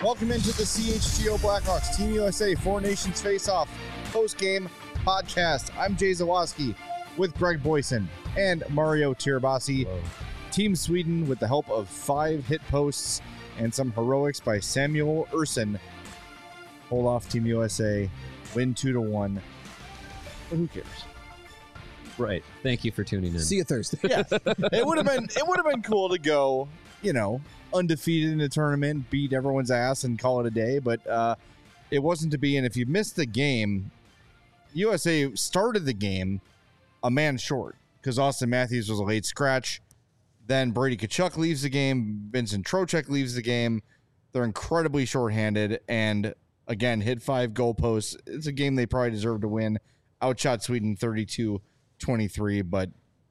Welcome into the CHGO Blackhawks Team USA Four Nations Face-Off post-game podcast. I'm Jay Zawaski with Greg Boyson and Mario Tirabassi. Whoa. Team Sweden, with the help of 5 hit posts and some heroics by Samuel Ersson, hold off Team USA, win 2-1. But who cares? Right. Thank you for tuning in. See you Thursday. Yeah, it would have been cool to go, undefeated in the tournament, beat everyone's ass, and call it a day. But it wasn't to be. And if you missed the game, USA started the game a man short because Austin Matthews was a late scratch. Then Brady Tkachuk leaves the game. Vincent Trocheck leaves the game. They're incredibly shorthanded, and again hit 5 goalposts. It's a game they probably deserve to win. Outshot Sweden 32-23, but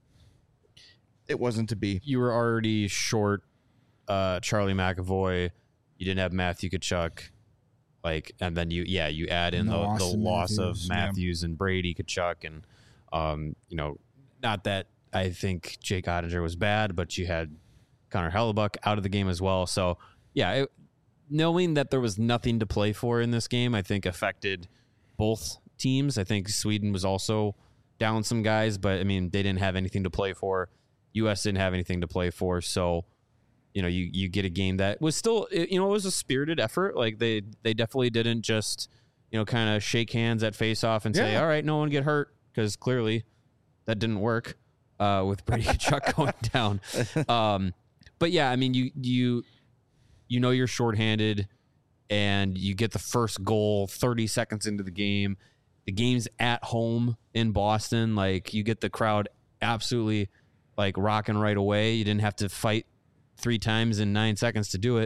it wasn't to be. You were already short Charlie McAvoy. You didn't have Matthew Tkachuk. And then you add in the loss of Matthews and Brady Tkachuk, and not that I think Jake Ottinger was bad, but you had Connor Hellebuck out of the game as well. So knowing that there was nothing to play for in this game, I think affected both teams. I think Sweden was also down some guys, but I mean, they didn't have anything to play for. US didn't have anything to play for. So, you get a game that was still, it was a spirited effort. Like they definitely didn't just, kind of shake hands at face-off and say, all right, no one get hurt, because clearly that didn't work with Brady Tkachuk going down. But yeah, I mean, you're shorthanded, and you get the first goal 30 seconds into the game. The game's at home in Boston. Like, you get the crowd absolutely rocking right away. You didn't have to fight 3 times in 9 seconds to do it.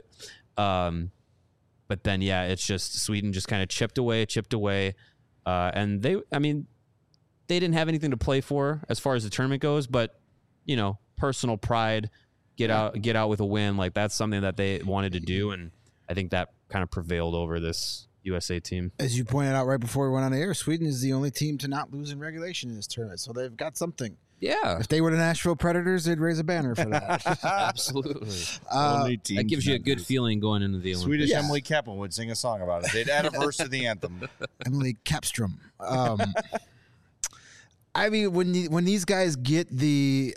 But then, it's just Sweden just kind of chipped away. And they didn't have anything to play for as far as the tournament goes, but personal pride, get out with a win. Like, that's something that they wanted to do. And I think that kind of prevailed over this USA team. As you pointed out right before we went on the air, Sweden is the only team to not lose in regulation in this tournament, so they've got something. Yeah. If they were the Nashville Predators, they'd raise a banner for that. Absolutely. That gives you a good feeling going into the Olympics. Swedish Emily Kaplan would sing a song about it. They'd add a verse to the anthem. Emily Kapstrom. I mean, when these guys get the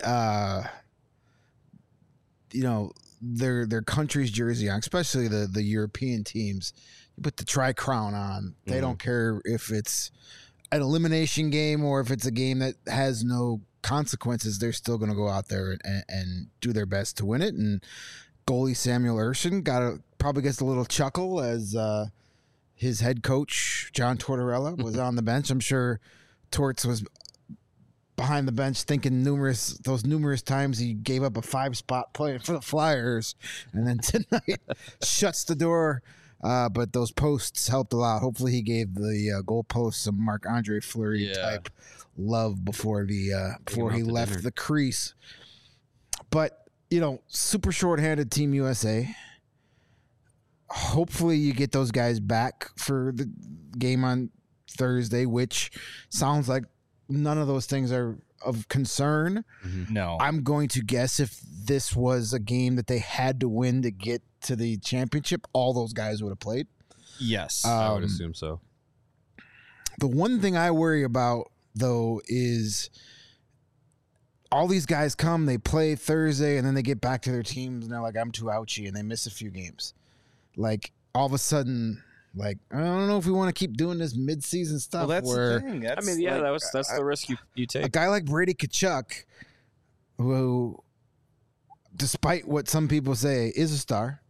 their country's jersey on, especially the European teams, you put the Tri-Crown on. They don't care if it's an elimination game or if it's a game that has no consequences. They're still going to go out there and do their best to win it. And goalie Samuel Ersson probably gets a little chuckle as his head coach John Tortorella was on the bench. I'm sure Torts was behind the bench thinking those numerous times he gave up a 5-spot play for the Flyers, and then tonight shuts the door. But those posts helped a lot. Hopefully he gave the goal posts some Marc-Andre Fleury type love before he left the crease. But, super shorthanded Team USA. Hopefully you get those guys back for the game on Thursday, which sounds like none of those things are of concern. No. I'm going to guess if this was a game that they had to win to get to the championship, all those guys would have played. Yes. I would assume so. The one thing I worry about, though, is all these guys come, they play Thursday, and then they get back to their teams, and they're like, I'm too ouchy, and they miss a few games. Like, all of a sudden, I don't know if we want to keep doing this mid-season stuff. Well, that's the thing. That's the risk you take. A guy like Brady Tkachuk, who, despite what some people say, is a star,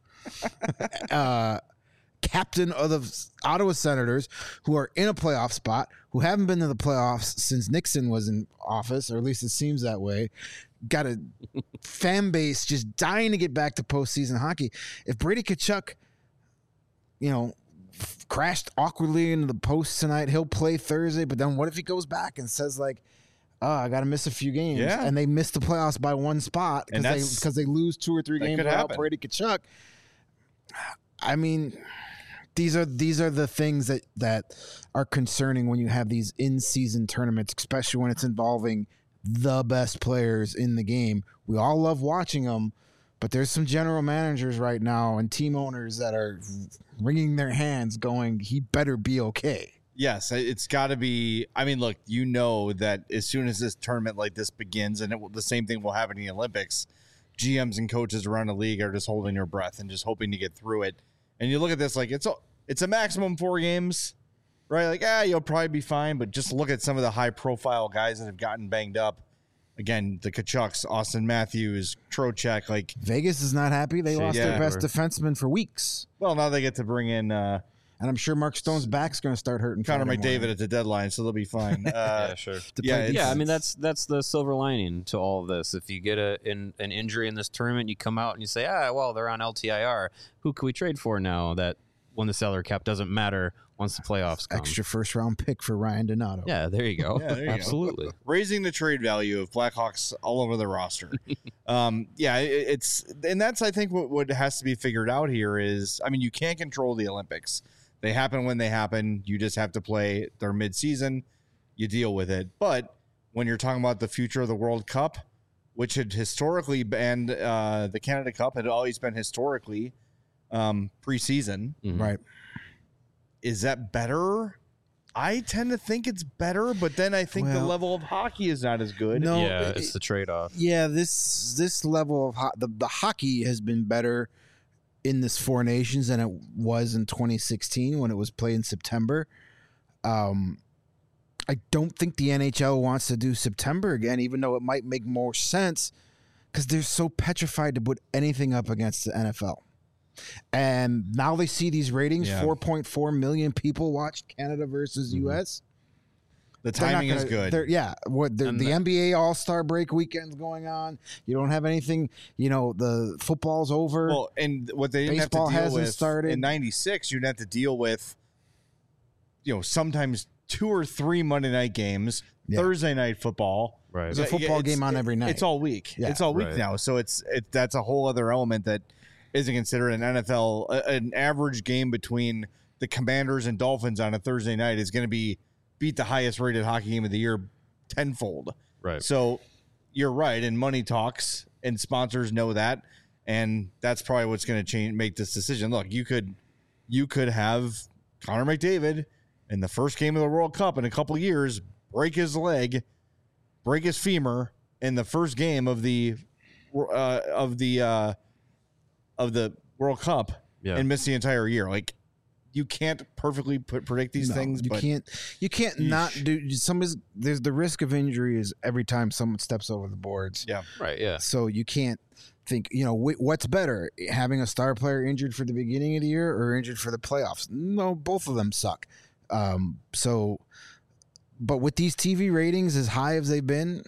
captain of the Ottawa Senators, who are in a playoff spot, who haven't been to the playoffs since Nixon was in office, or at least it seems that way. Got a fan base just dying to get back to postseason hockey. If Brady Tkachuk, crashed awkwardly into the post tonight, he'll play Thursday, but then what if he goes back and says I got to miss a few games, and they miss the playoffs by 1 spot because they lose 2 or 3 games without Brady Tkachuk? I mean, these are the things that are concerning when you have these in-season tournaments, especially when it's involving the best players in the game. We all love watching them, But there's some general managers right now and team owners that are wringing their hands going, he better be okay. Yes, it's got to be. I mean, look, you know that as soon as this tournament like this begins, and the same thing will happen in the Olympics, GMs and coaches around the league are just holding their breath and just hoping to get through it. And you look at this like it's a maximum 4 games, right? Like, you'll probably be fine. But just look at some of the high-profile guys that have gotten banged up. Again, the Tkachuks, Austin Matthews, Trocheck. Like Vegas is not happy. They lost their best defenseman for weeks. Well, now they get to bring in. And I'm sure Mark Stone's back's going to start hurting. Connor McDavid at the deadline, so they'll be fine. Yeah, sure. I mean, that's the silver lining to all of this. If you get an injury in this tournament, you come out and you say, well, they're on LTIR. Who can we trade for now that when the salary cap doesn't matter once the playoffs come? Extra first-round pick for Ryan Donato. Yeah, there you go. Yeah, there you Absolutely. Go. Raising the trade value of Blackhawks all over the roster. It's and that's, I think, what has to be figured out here is, I mean, you can't control the Olympics. They happen when they happen. You just have to play their midseason. You deal with it. But when you're talking about the future of the World Cup, which had historically been the Canada Cup had always been historically preseason. Mm-hmm. Right. Is that better? I tend to think it's better, but then I think the level of hockey is not as good. No, it's the trade-off. Yeah, this level of the hockey has been better in this Four Nations than it was in 2016 when it was played in September. I don't think the NHL wants to do September again, even though it might make more sense because they're so petrified to put anything up against the NFL. And now they see these ratings, 4.4 million people watched Canada versus U.S. The timing is good. The NBA All-Star break weekend's going on. You don't have anything, the football's over. Well, and what they didn't Baseball have to deal with started. In 96, you'd have to deal with, sometimes 2 or 3 Monday night games, Thursday night football. Right. There's a football game on every night. It's all week. Yeah. It's all week now. So that's a whole other element that isn't considered an NFL. An average game between the Commanders and Dolphins on a Thursday night is going to beat the highest rated hockey game of the year tenfold. Right. So you're right. And money talks and sponsors know that. And that's probably what's going to make this decision. Look, you could have Connor McDavid in the first game of the World Cup in a couple of years, break his leg, break his femur in the first game of the World Cup and miss the entire year. Like, you can't perfectly predict these things. You can't not do there's the risk of injury is every time someone steps over the boards. Yeah. Right. Yeah. So you can't think, what's better, having a star player injured for the beginning of the year or injured for the playoffs? No, both of them suck. But with these TV ratings as high as they've been,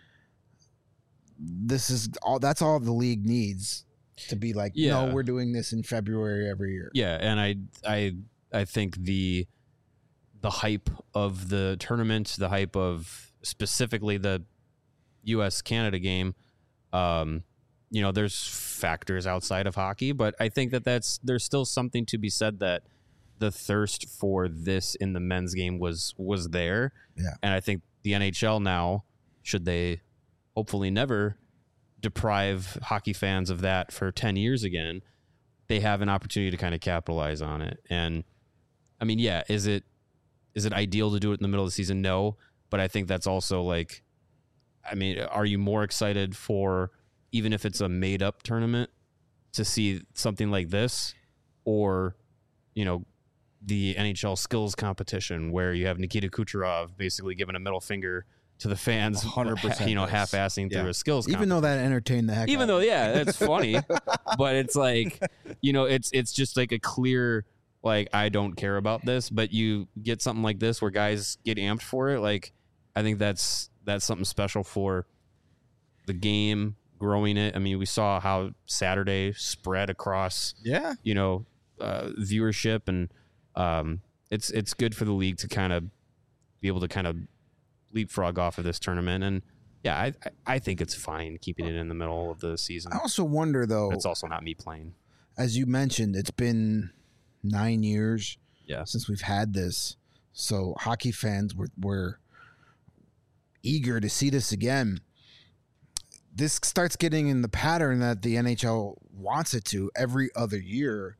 that's all the league needs to be like, no, we're doing this in February every year. Yeah, and I think the hype of the tournament, the hype of specifically the U.S.-Canada game, there's factors outside of hockey, but I think there's still something to be said that the thirst for this in the men's game was there. Yeah. And I think the NHL now, should they hopefully never deprive hockey fans of that for 10 years again, they have an opportunity to kind of capitalize on it. And I mean, is it ideal to do it in the middle of the season? No, but I think that's also like, I mean, are you more excited for, even if it's a made up tournament, to see something like this, or, the NHL skills competition where you have Nikita Kucherov basically giving a middle finger to the fans, 100%, half-assing through a skills competition. Even though that entertained the heck out of it. That's funny, but it's like, it's just like a clear, like, I don't care about this, but you get something like this where guys get amped for it. Like, I think that's something special for the game, growing it. I mean, we saw how Saturday spread across, viewership, and it's good for the league to kind of be able to kind of leapfrog off of this tournament. And I think it's fine keeping it in the middle of the season. I also wonder, though, it's also not me playing. As you mentioned, it's been 9 years since we've had this. So hockey fans were eager to see this again. this starts getting in the pattern that the NHL wants it to every other year,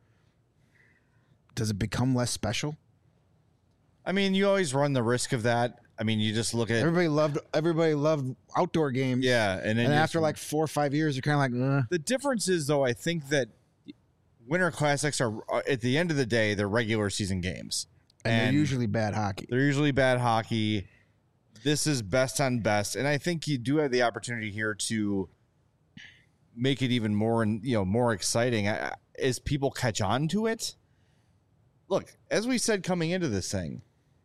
does it become less special? I mean, you always run the risk of that. I mean, you just look at everybody loved outdoor games. Yeah, and after like 4 or 5 years, you're kind of like, The difference is, though, I think that Winter Classics are, at the end of the day, they're regular season games, and they're usually bad hockey. They're usually bad hockey. This is best on best, and I think you do have the opportunity here to make it even more and more exciting as people catch on to it. Look, as we said coming into this thing,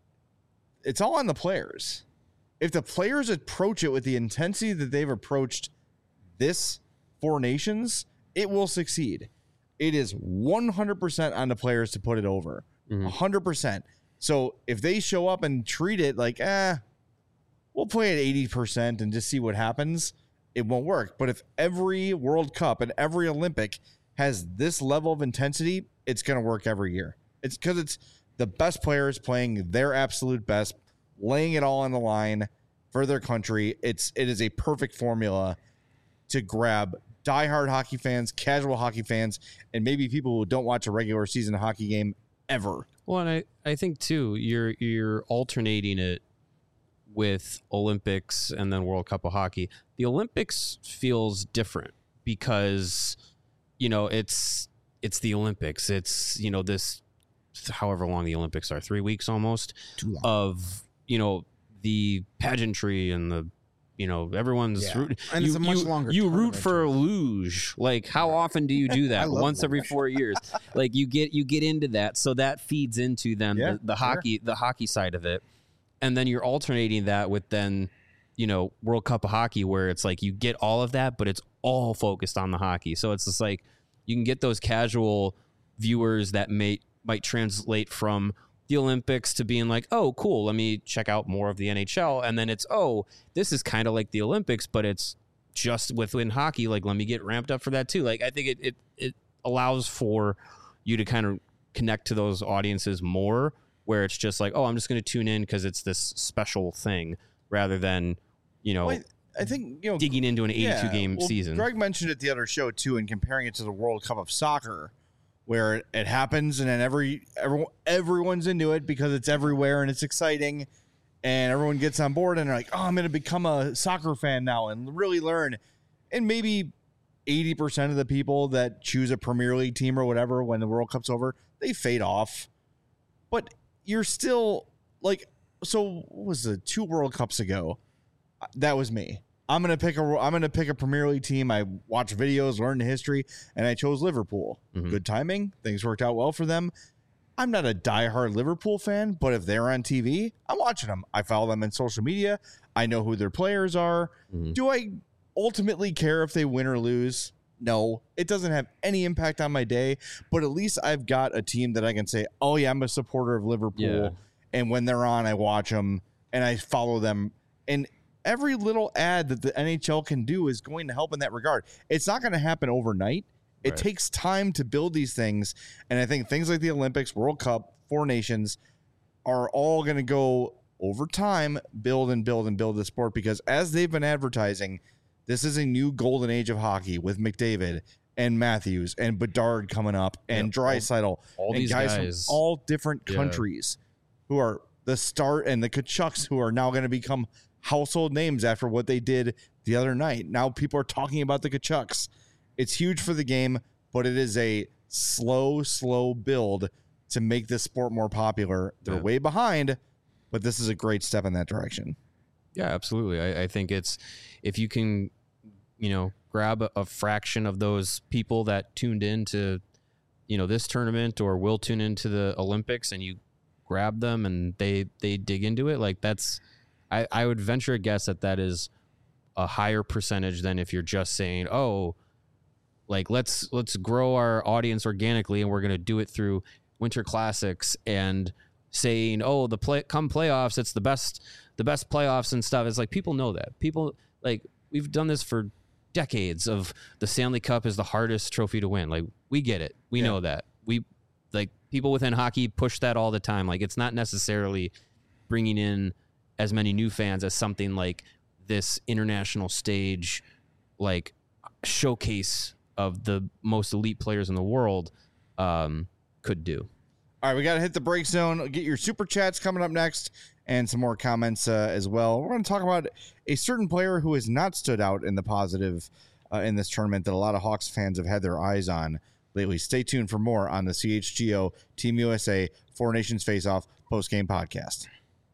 it's all on the players. If the players approach it with the intensity that they've approached this Four Nations, it will succeed. It is 100% on the players to put it over. 100%. So if they show up and treat it like, we'll play at 80% and just see what happens, it won't work. But if every World Cup and every Olympic has this level of intensity, it's going to work every year. It's because it's the best players playing their absolute best, laying it all on the line for their country. It is a perfect formula to grab diehard hockey fans, casual hockey fans, and maybe people who don't watch a regular season hockey game ever. Well, and I think too, you're alternating it with Olympics and then World Cup of Hockey. The Olympics feels different because it's the Olympics. It's this, however long the Olympics are, 3 weeks almost, of the pageantry and the everyone's rooting. And it's a much longer you root for luge. Like, how often do you do that? Once every 4 years. Like, you get into that, so that feeds into then the hockey side of it. And then you're alternating that with then World Cup of Hockey, where it's like you get all of that, but it's all focused on the hockey. So it's just like you can get those casual viewers that might translate from the Olympics to being like, oh, cool, let me check out more of the NHL. And then it's, oh, this is kind of like the Olympics, but it's just within hockey. Like, let me get ramped up for that too. Like, I think it allows for you to kind of connect to those audiences more, where it's just like, oh, I'm just going to tune in because it's this special thing, rather than, I think, digging into an 82 game season. Greg mentioned it the other show too, and comparing it to the World Cup of Soccer, where it happens and then everyone's into it because it's everywhere and it's exciting and everyone gets on board and they're like, oh, I'm going to become a soccer fan now and really learn. And maybe 80% of the people that choose a Premier League team or whatever when the World Cup's over, they fade off. But you're still like, so what was it, 2 World Cups ago? That was me. I'm gonna pick a Premier League team. I watch videos, learn the history, and I chose Liverpool. Good timing. Things worked out well for them. I'm not a diehard Liverpool fan, but if they're on TV, I'm watching them. I follow them on social media. I know who their players are. Do I ultimately care if they win or lose? No, it doesn't have any impact on my day, but at least I've got a team that I can say, oh yeah, I'm a supporter of Liverpool. Yeah. And when they're on, I watch them and I follow them. And every little ad that the NHL can do is going to help in that regard. It's not going to happen overnight. It takes time to build these things. And I think things like the Olympics, World Cup, Four Nations are all going to go over time, build and build and build the sport, because as they've been advertising, this is a new golden age of hockey with McDavid and Matthews and Bedard coming up and Draisaitl all and these guys from all different countries who are the start, and the Kachucks who are now going to become household names after what they did the other night. Now people are talking about the Kachucks. It's huge for the game, but it is a slow build to make this sport more popular. They're way behind, but this is a great step in that direction. Yeah, absolutely. I think it's, if you can, grab a fraction of those people that tuned in to, this tournament or will tune into the Olympics, and you grab them and they dig into it, like that's, I would venture a guess that is a higher percentage than if you're just saying, oh, like let's grow our audience organically and we're going to do it through Winter Classics and saying, oh, come playoffs, it's the best playoffs and stuff. It's like, people know that. People, like, we've done this for decades of the Stanley Cup is the hardest trophy to win. Like, we get it. We know that. We, like, people within hockey push that all the time. Like, it's not necessarily bringing in as many new fans as something like this international stage, like showcase of the most elite players in the world could do. All right, we got to hit the break zone. Get your super chats coming up next and some more comments as well. We're going to talk about a certain player who has not stood out in the positive in this tournament that a lot of Hawks fans have had their eyes on lately. Stay tuned for more on the CHGO Team USA Four Nations Face-Off post-game podcast.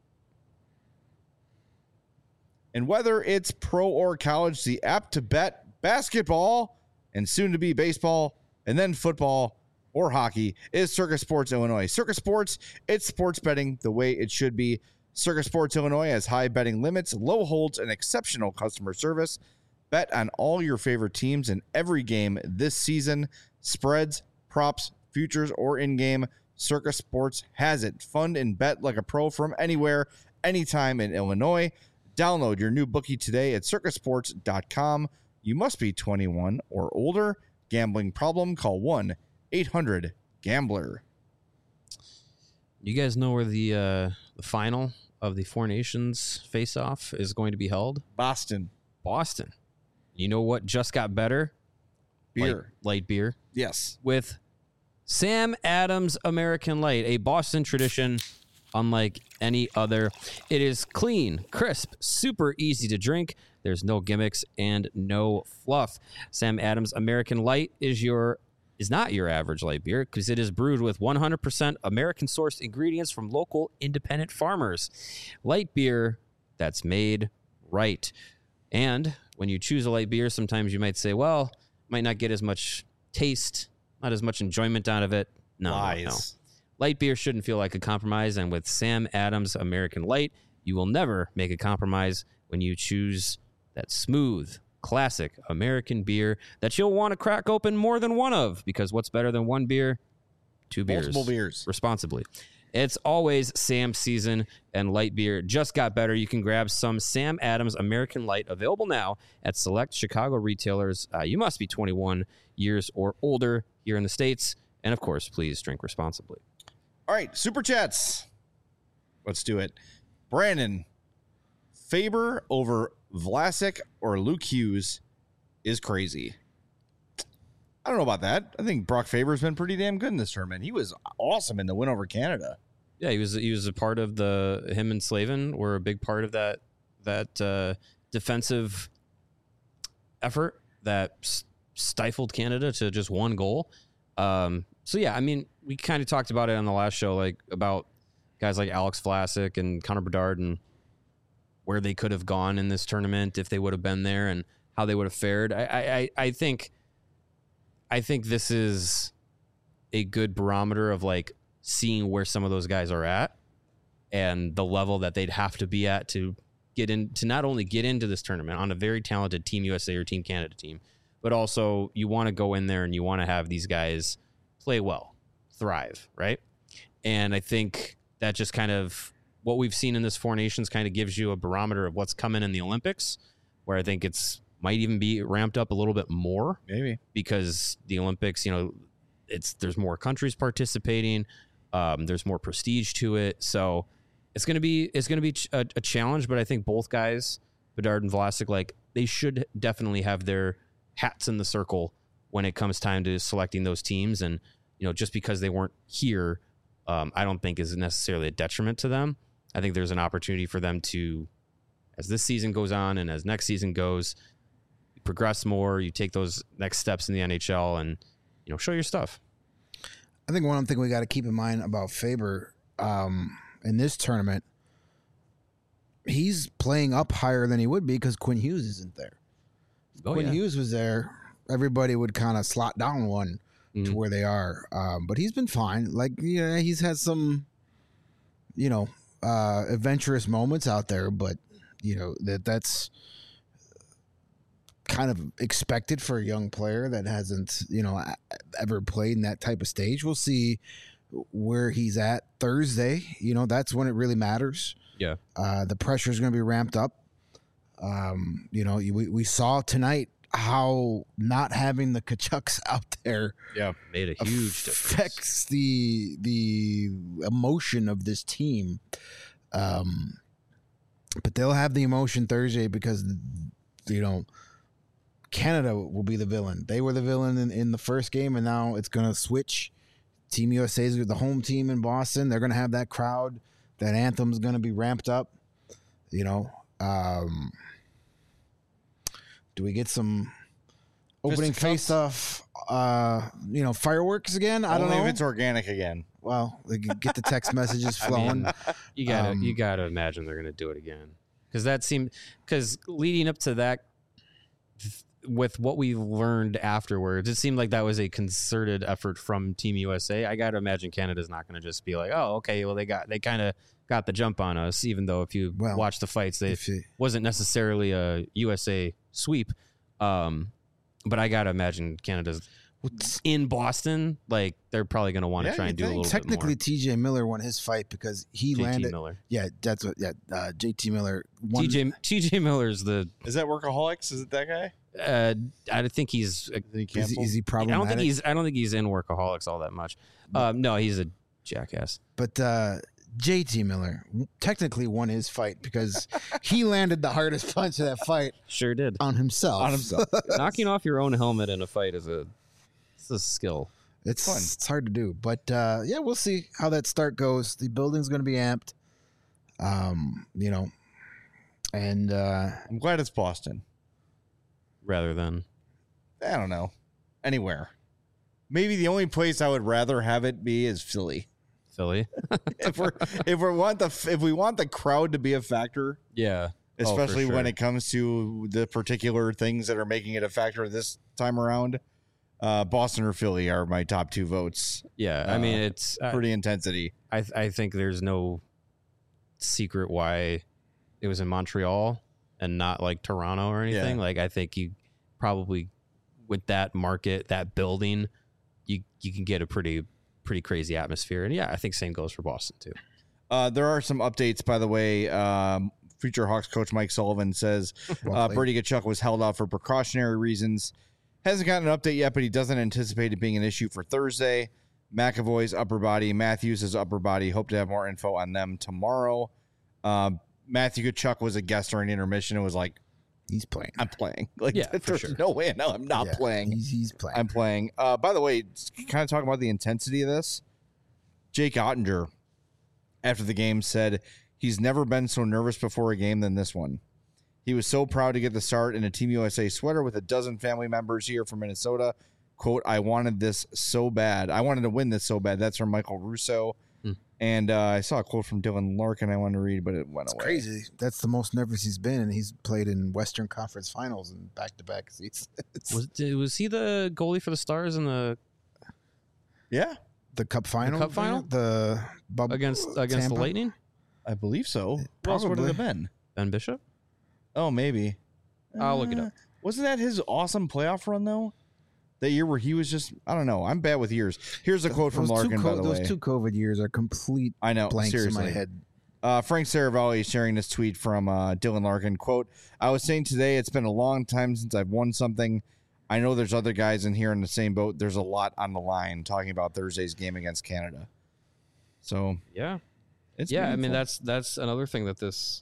And whether it's pro or college, the app to bet basketball and soon to be baseball and then football or hockey is Circus Sports Illinois. Circus Sports, it's sports betting the way it should be. Circus Sports Illinois has high betting limits, low holds, and exceptional customer service. Bet on all your favorite teams in every game this season. Spreads, props, futures, or in-game, Circus Sports has it. Fund and bet like a pro from anywhere, anytime in Illinois. Download your new bookie today at circusports.com. You must be 21 or older. Gambling problem? Call 1-800-GAMBLER. You guys know where the final of the Four Nations face-off is going to be held? Boston. You know what just got better? Beer. Light beer. Yes. With Sam Adams American Light, a Boston tradition unlike any other. It is clean, crisp, super easy to drink. There's no gimmicks and no fluff. Sam Adams American Light is not your average light beer because it is brewed with 100% American-sourced ingredients from local independent farmers. Light beer that's made right. And when you choose a light beer, sometimes you might say, well, might not get as much taste, not as much enjoyment out of it. No. Light beer shouldn't feel like a compromise, and with Sam Adams American Light, you will never make a compromise when you choose that smooth, classic American beer that you'll want to crack open more than one of, because what's better than one beer? Two beers. Multiple beers. Responsibly. It's always Sam season, and light beer just got better. You can grab some Sam Adams American Light, available now at select Chicago retailers. You must be 21 years or older here in the States. And, of course, please drink responsibly. All right, Super Chats. Let's do it. Brandon, Faber over Vlasic or Luke Hughes is crazy. I don't know about that. I think Brock Faber's been pretty damn good in this tournament. He was awesome in the win over Canada. Yeah, he was a part of him and Slavin were a big part of that defensive effort that stifled Canada to just one goal. So yeah, I mean, we kind of talked about it on the last show, like about guys like Alex Vlasic and Connor Bedard and where they could have gone in this tournament if they would have been there and how they would have fared. I think this is a good barometer of like seeing where some of those guys are at and the level that they'd have to be at to get in, to not only get into this tournament on a very talented Team USA or Team Canada team, but also you want to go in there and you want to have these guys play well, thrive, right? And I think that just kind of what we've seen in this Four Nations kind of gives you a barometer of what's coming in the Olympics, where I think it's might even be ramped up a little bit more, maybe, because the Olympics, you know, there's more countries participating, there's more prestige to it, so it's gonna be a challenge. But I think both guys, Bedard and Vlasic, like they should definitely have their hats in the circle when it comes time to selecting those teams. And you know, just because they weren't here, I don't think is necessarily a detriment to them. I think there's an opportunity for them to, as this season goes on and as next season goes, you progress more, you take those next steps in the NHL and, you know, show your stuff. I think one thing we got to keep in mind about Faber in this tournament, he's playing up higher than he would be because Quinn Hughes isn't there. Quinn Hughes was there, everybody would kind of slot down one to where they are. But he's been fine. Like, yeah, he's had some, you know, adventurous moments out there, but you know, that's kind of expected for a young player that hasn't, you know, ever played in that type of stage. We'll see where he's at Thursday. You know, that's when it really matters. Yeah. The pressure is going to be ramped up. You know, we saw tonight how not having the Tkachuks out there made a huge affects the emotion of this team. But they'll have the emotion Thursday because, you know, Canada will be the villain. They were the villain in the first game, and now it's going to switch. Team USA is the home team in Boston. They're going to have that crowd. That anthem's going to be ramped up. You know, do we get some opening face-off, fireworks again? I don't know. If it's organic again. Well, they can get the text messages flowing. You gotta imagine they're gonna do it again, because leading up to that, with what we learned afterwards, it seemed like that was a concerted effort from Team USA. I gotta imagine Canada's not gonna just be like, oh, okay, well they kind of got the jump on us, even though if you watch the fights, wasn't necessarily a USA sweep. But I gotta imagine Canada's in Boston, like they're probably going to want to try and do a little technically bit more. TJ Miller won his fight because he landed. Miller. Yeah, that's what. Yeah, JT Miller won. TJ Miller's Is that Workaholics? Is it that guy? I think he's. Is he problematic? I don't think he's in Workaholics all that much. No, he's a jackass. But JT Miller technically won his fight because he landed the hardest punch of that fight. Sure did. On himself. Knocking off your own helmet in a fight is a skill. It's fun. It's hard to do, but we'll see how that start goes. The building's going to be amped, and I'm glad it's Boston rather than I don't know anywhere. Maybe the only place I would rather have it be is Philly. if we want the crowd to be a factor, yeah, especially when it comes to the particular things that are making it a factor this time around. Boston or Philly are my top two votes. Yeah, I mean it's pretty intensity. I think there's no secret why it was in Montreal and not like Toronto or anything. Yeah. Like I think you probably with that market, that building, you can get a pretty crazy atmosphere. And yeah, I think same goes for Boston too. There are some updates, by the way. Future Hawks coach Mike Sullivan says Brady Tkachuk was held out for precautionary reasons. Hasn't gotten an update yet, but he doesn't anticipate it being an issue for Thursday. McAvoy's upper body, Matthews' upper body. Hope to have more info on them tomorrow. Matthew Tkachuk was a guest during intermission and was like, he's playing. I'm playing. Like, there's no way. No, I'm not playing. He's playing. I'm playing. By the way, kind of talking about the intensity of this, Jake Ottinger, after the game, said he's never been so nervous before a game than this one. He was so proud to get the start in a Team USA sweater with a dozen family members here from Minnesota. Quote, I wanted this so bad. I wanted to win this so bad. That's from Michael Russo. And I saw a quote from Dylan Larkin I wanted to read, but it went away. Crazy. That's the most nervous he's been, and he's played in Western Conference Finals in back-to-back seasons. Was he the goalie for the Stars in the... Yeah. The Cup Final? Against the Lightning? I believe so. Who else would it have been? Ben Bishop? Oh, maybe. I'll look it up. Wasn't that his awesome playoff run, though? That year where he was just, I don't know. I'm bad with years. Here's a quote from Larkin, by the way. Those two COVID years are complete blanks in my head. Frank Saravalli is sharing this tweet from Dylan Larkin. Quote, I was saying today it's been a long time since I've won something. I know there's other guys in here in the same boat. There's a lot on the line, talking about Thursday's game against Canada. So, yeah. It's I mean, that's another thing that this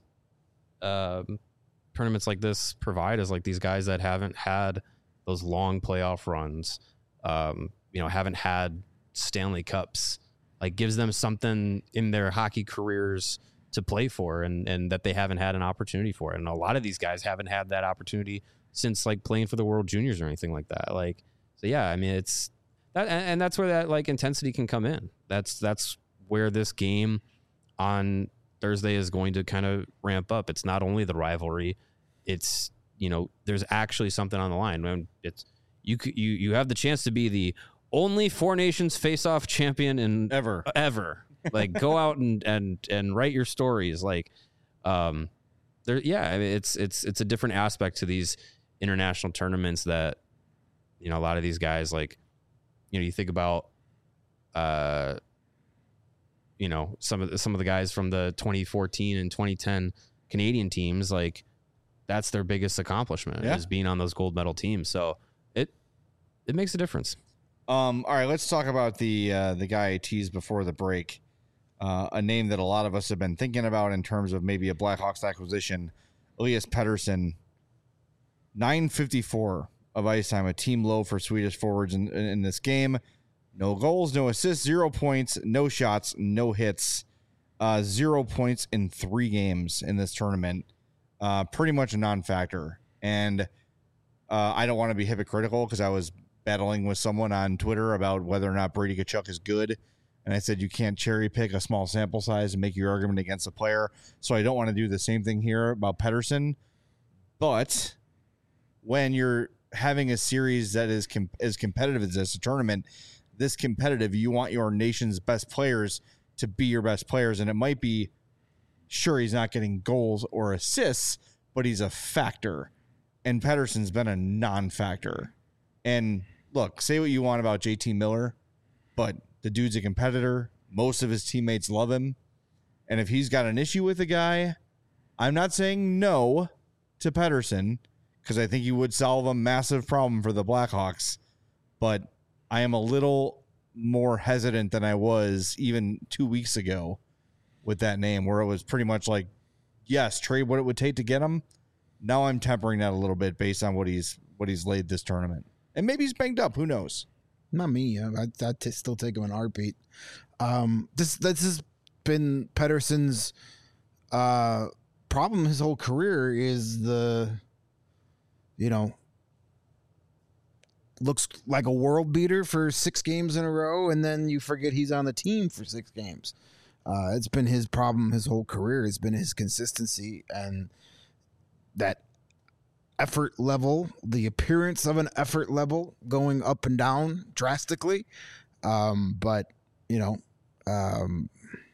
tournaments like this provide is like these guys that haven't had those long playoff runs, haven't had Stanley Cups, like gives them something in their hockey careers to play for and that they haven't had an opportunity for. And a lot of these guys haven't had that opportunity since like playing for the World Juniors or anything like that. Like, so yeah, I mean, it's that, and that's where that like intensity can come in. That's where this game on Thursday is going to kind of ramp up. It's not only the rivalry, it's, there's actually something on the line. When it's you have the chance to be the only Four Nations face-off champion in ever. Like, go out and write your stories. Like, I mean, it's a different aspect to these international tournaments that, a lot of these guys, like, you think about, some of the guys from the 2014 and 2010 Canadian teams, like, that's their biggest accomplishment is being on those gold medal teams. So it makes a difference. All right, let's talk about the guy I teased before the break. A name that a lot of us have been thinking about in terms of maybe a Blackhawks acquisition, Elias Pettersson. 954 of ice time, a team low for Swedish forwards in this game. No goals, no assists, 0 points, no shots, no hits, 0 points in 3 games in this tournament. Pretty much a non-factor. And I don't want to be hypocritical because I was battling with someone on Twitter about whether or not Brady Tkachuk is good. And I said you can't cherry pick a small sample size and make your argument against a player. So I don't want to do the same thing here about Pettersson. But when you're having a series that is as competitive as this, a tournament this competitive, you want your nation's best players to be your best players. And it might be, sure, he's not getting goals or assists, but he's a factor. And Pettersson's been a non-factor. And look, say what you want about JT Miller, but the dude's a competitor. Most of his teammates love him. And if he's got an issue with a guy, I'm not saying no to Pettersson because I think he would solve a massive problem for the Blackhawks. But I am a little more hesitant than I was even 2 weeks ago with that name, where it was pretty much like, yes, trade what it would take to get him. Now I'm tempering that a little bit based on what he's laid this tournament. And maybe he's banged up. Who knows? Not me. I'd still take him in a heartbeat. This has been Pettersson's problem his whole career is looks like a world beater for 6 games in a row, and then you forget he's on the team for 6 games. It's been his problem his whole career. It's been his consistency and that effort level, the appearance of an effort level going up and down drastically. But that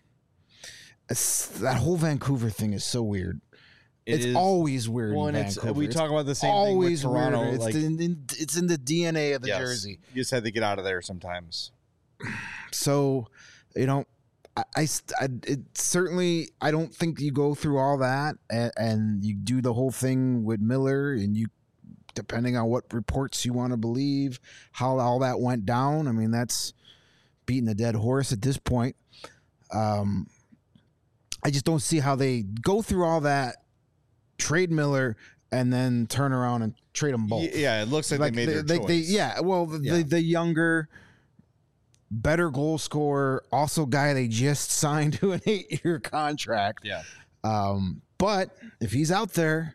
whole Vancouver thing is so weird. It's always weird. Well, in Vancouver. We talk about the same always thing with Toronto. Weird. It's in the DNA of the jersey. You just had to get out of there sometimes. So, I certainly I don't think you go through all that and you do the whole thing with Miller, and you, depending on what reports you want to believe, how all that went down. I mean, that's beating a dead horse at this point. I just don't see how they go through all that, trade Miller, and then turn around and trade them both. Yeah, it looks like they made their choice. The younger, better goal scorer, also guy they just signed to an 8-year contract. Yeah. But if he's out there,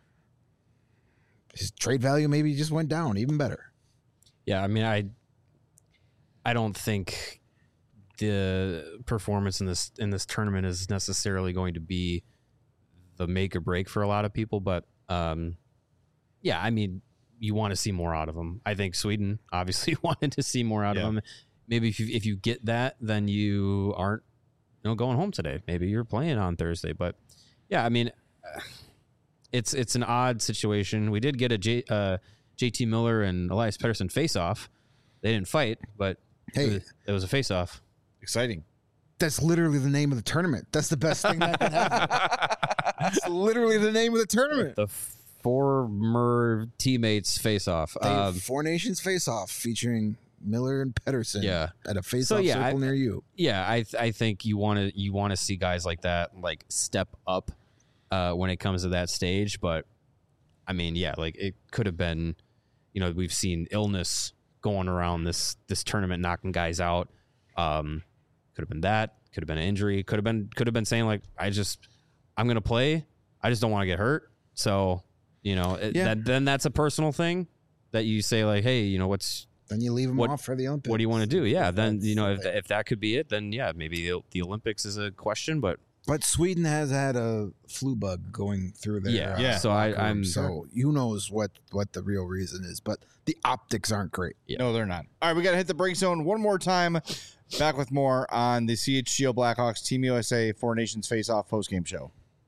his trade value maybe just went down even better. Yeah, I mean, I don't think the performance in this tournament is necessarily going to be the make or break for a lot of people, but yeah, I mean, you want to see more out of him. I think Sweden obviously wanted to see more out of him. Maybe if you get that, then you aren't going home today. Maybe you're playing on Thursday. But yeah, I mean, it's an odd situation. We did get a JT Miller and Elias Pettersson face off. They didn't fight, but hey, it was a face off. Exciting. That's literally the name of the tournament. That's the best thing that can happen. That's literally the name of the tournament. The former teammates face off. Four Nations face off featuring Miller and Pettersson. Yeah. At a face-off circle near you. Yeah, I think you want to see guys like that like step up when it comes to that stage. But I mean, yeah, like it could have been, we've seen illness going around this tournament, knocking guys out. Could have been that. Could have been an injury. Could have been saying like, I'm gonna play. I just don't want to get hurt. So then that's a personal thing that you say like, hey, then you leave them off for the Olympics. What do you want to do? Yeah, then if that could be it, then yeah, maybe the Olympics is a question. But Sweden has had a flu bug going through there. Yeah. So I'm who knows what the real reason is, but the optics aren't great. Yeah. No, they're not. All right, we got to hit the break zone one more time. Back with more on the CHGO Blackhawks Team USA Four Nations Face-Off postgame show.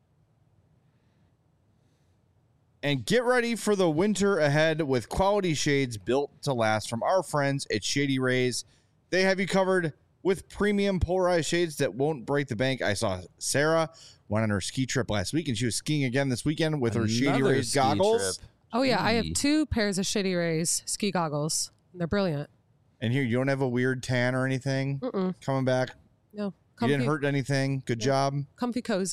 And get ready for the winter ahead with quality shades built to last from our friends at Shady Rays. They have you covered with premium polarized shades that won't break the bank. I saw Sarah went on her ski trip last week, and she was skiing again this weekend with her Shady Rays goggles. Trip. Oh, yeah. I have 2 pairs of Shady Rays ski goggles. They're brilliant. And here, you don't have a weird tan or anything coming back? No. You didn't hurt anything? Good job? Comfy cozy.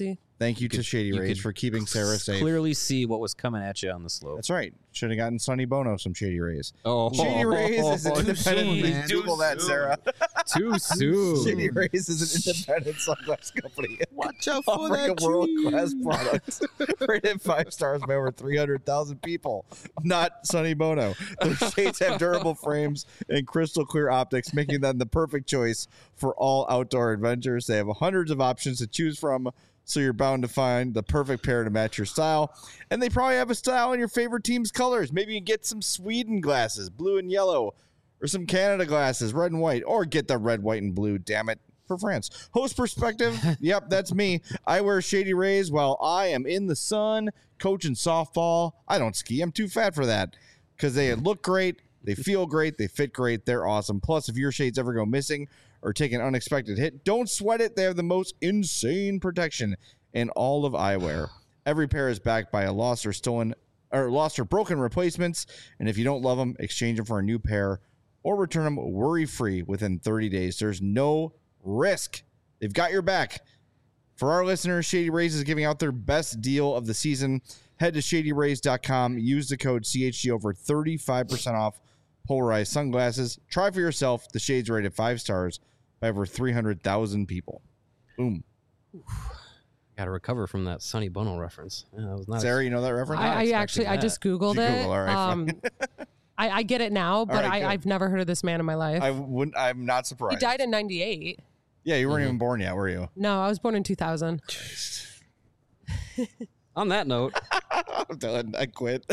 Thank you to Shady Rays for keeping Sarah safe. Clearly see what was coming at you on the slope. That's right. Should have gotten Sonny Bono some Shady Rays. Oh, Shady Rays is an independent. Google that, Sarah. Too soon. Shady Rays is an independent sunglass company. Watch out for Offering that a world-class product. Rated 5 stars by over 300,000 people. Not Sonny Bono. Their shades have durable frames and crystal clear optics, making them the perfect choice for all outdoor adventures. They have hundreds of options to choose from, so you're bound to find the perfect pair to match your style. And they probably have a style in your favorite team's colors. Maybe you can get some Sweden glasses, blue and yellow, or some Canada glasses, red and white, or get the red, white, and blue, damn it, for France. Host perspective, yep, that's me. I wear Shady Rays while I am in the sun coaching softball. I don't ski. I'm too fat for that because they look great, they feel great, they fit great, they're awesome. Plus, if your shades ever go missing or take an unexpected hit, don't sweat it. They have the most insane protection in all of eyewear. Every pair is backed by a lost or broken replacements, and if you don't love them, exchange them for a new pair or return them worry-free within 30 days. There's no risk. They've got your back. For our listeners, Shady Rays is giving out their best deal of the season. Head to shadyrays.com. Use the code CHG over 35% off polarized sunglasses. Try for yourself. The shades rated 5 stars by over 300,000 people. Boom. Got to recover from that Sonny Bono reference. Yeah, that was not Sarah, you know that reference? I just Googled it. Google? All right, I get it now, but right, I've never heard of this man in my life. I'm not surprised. He died in 98. Yeah, you weren't even born yet, were you? No, I was born in 2000. On that note, I'm done. I quit.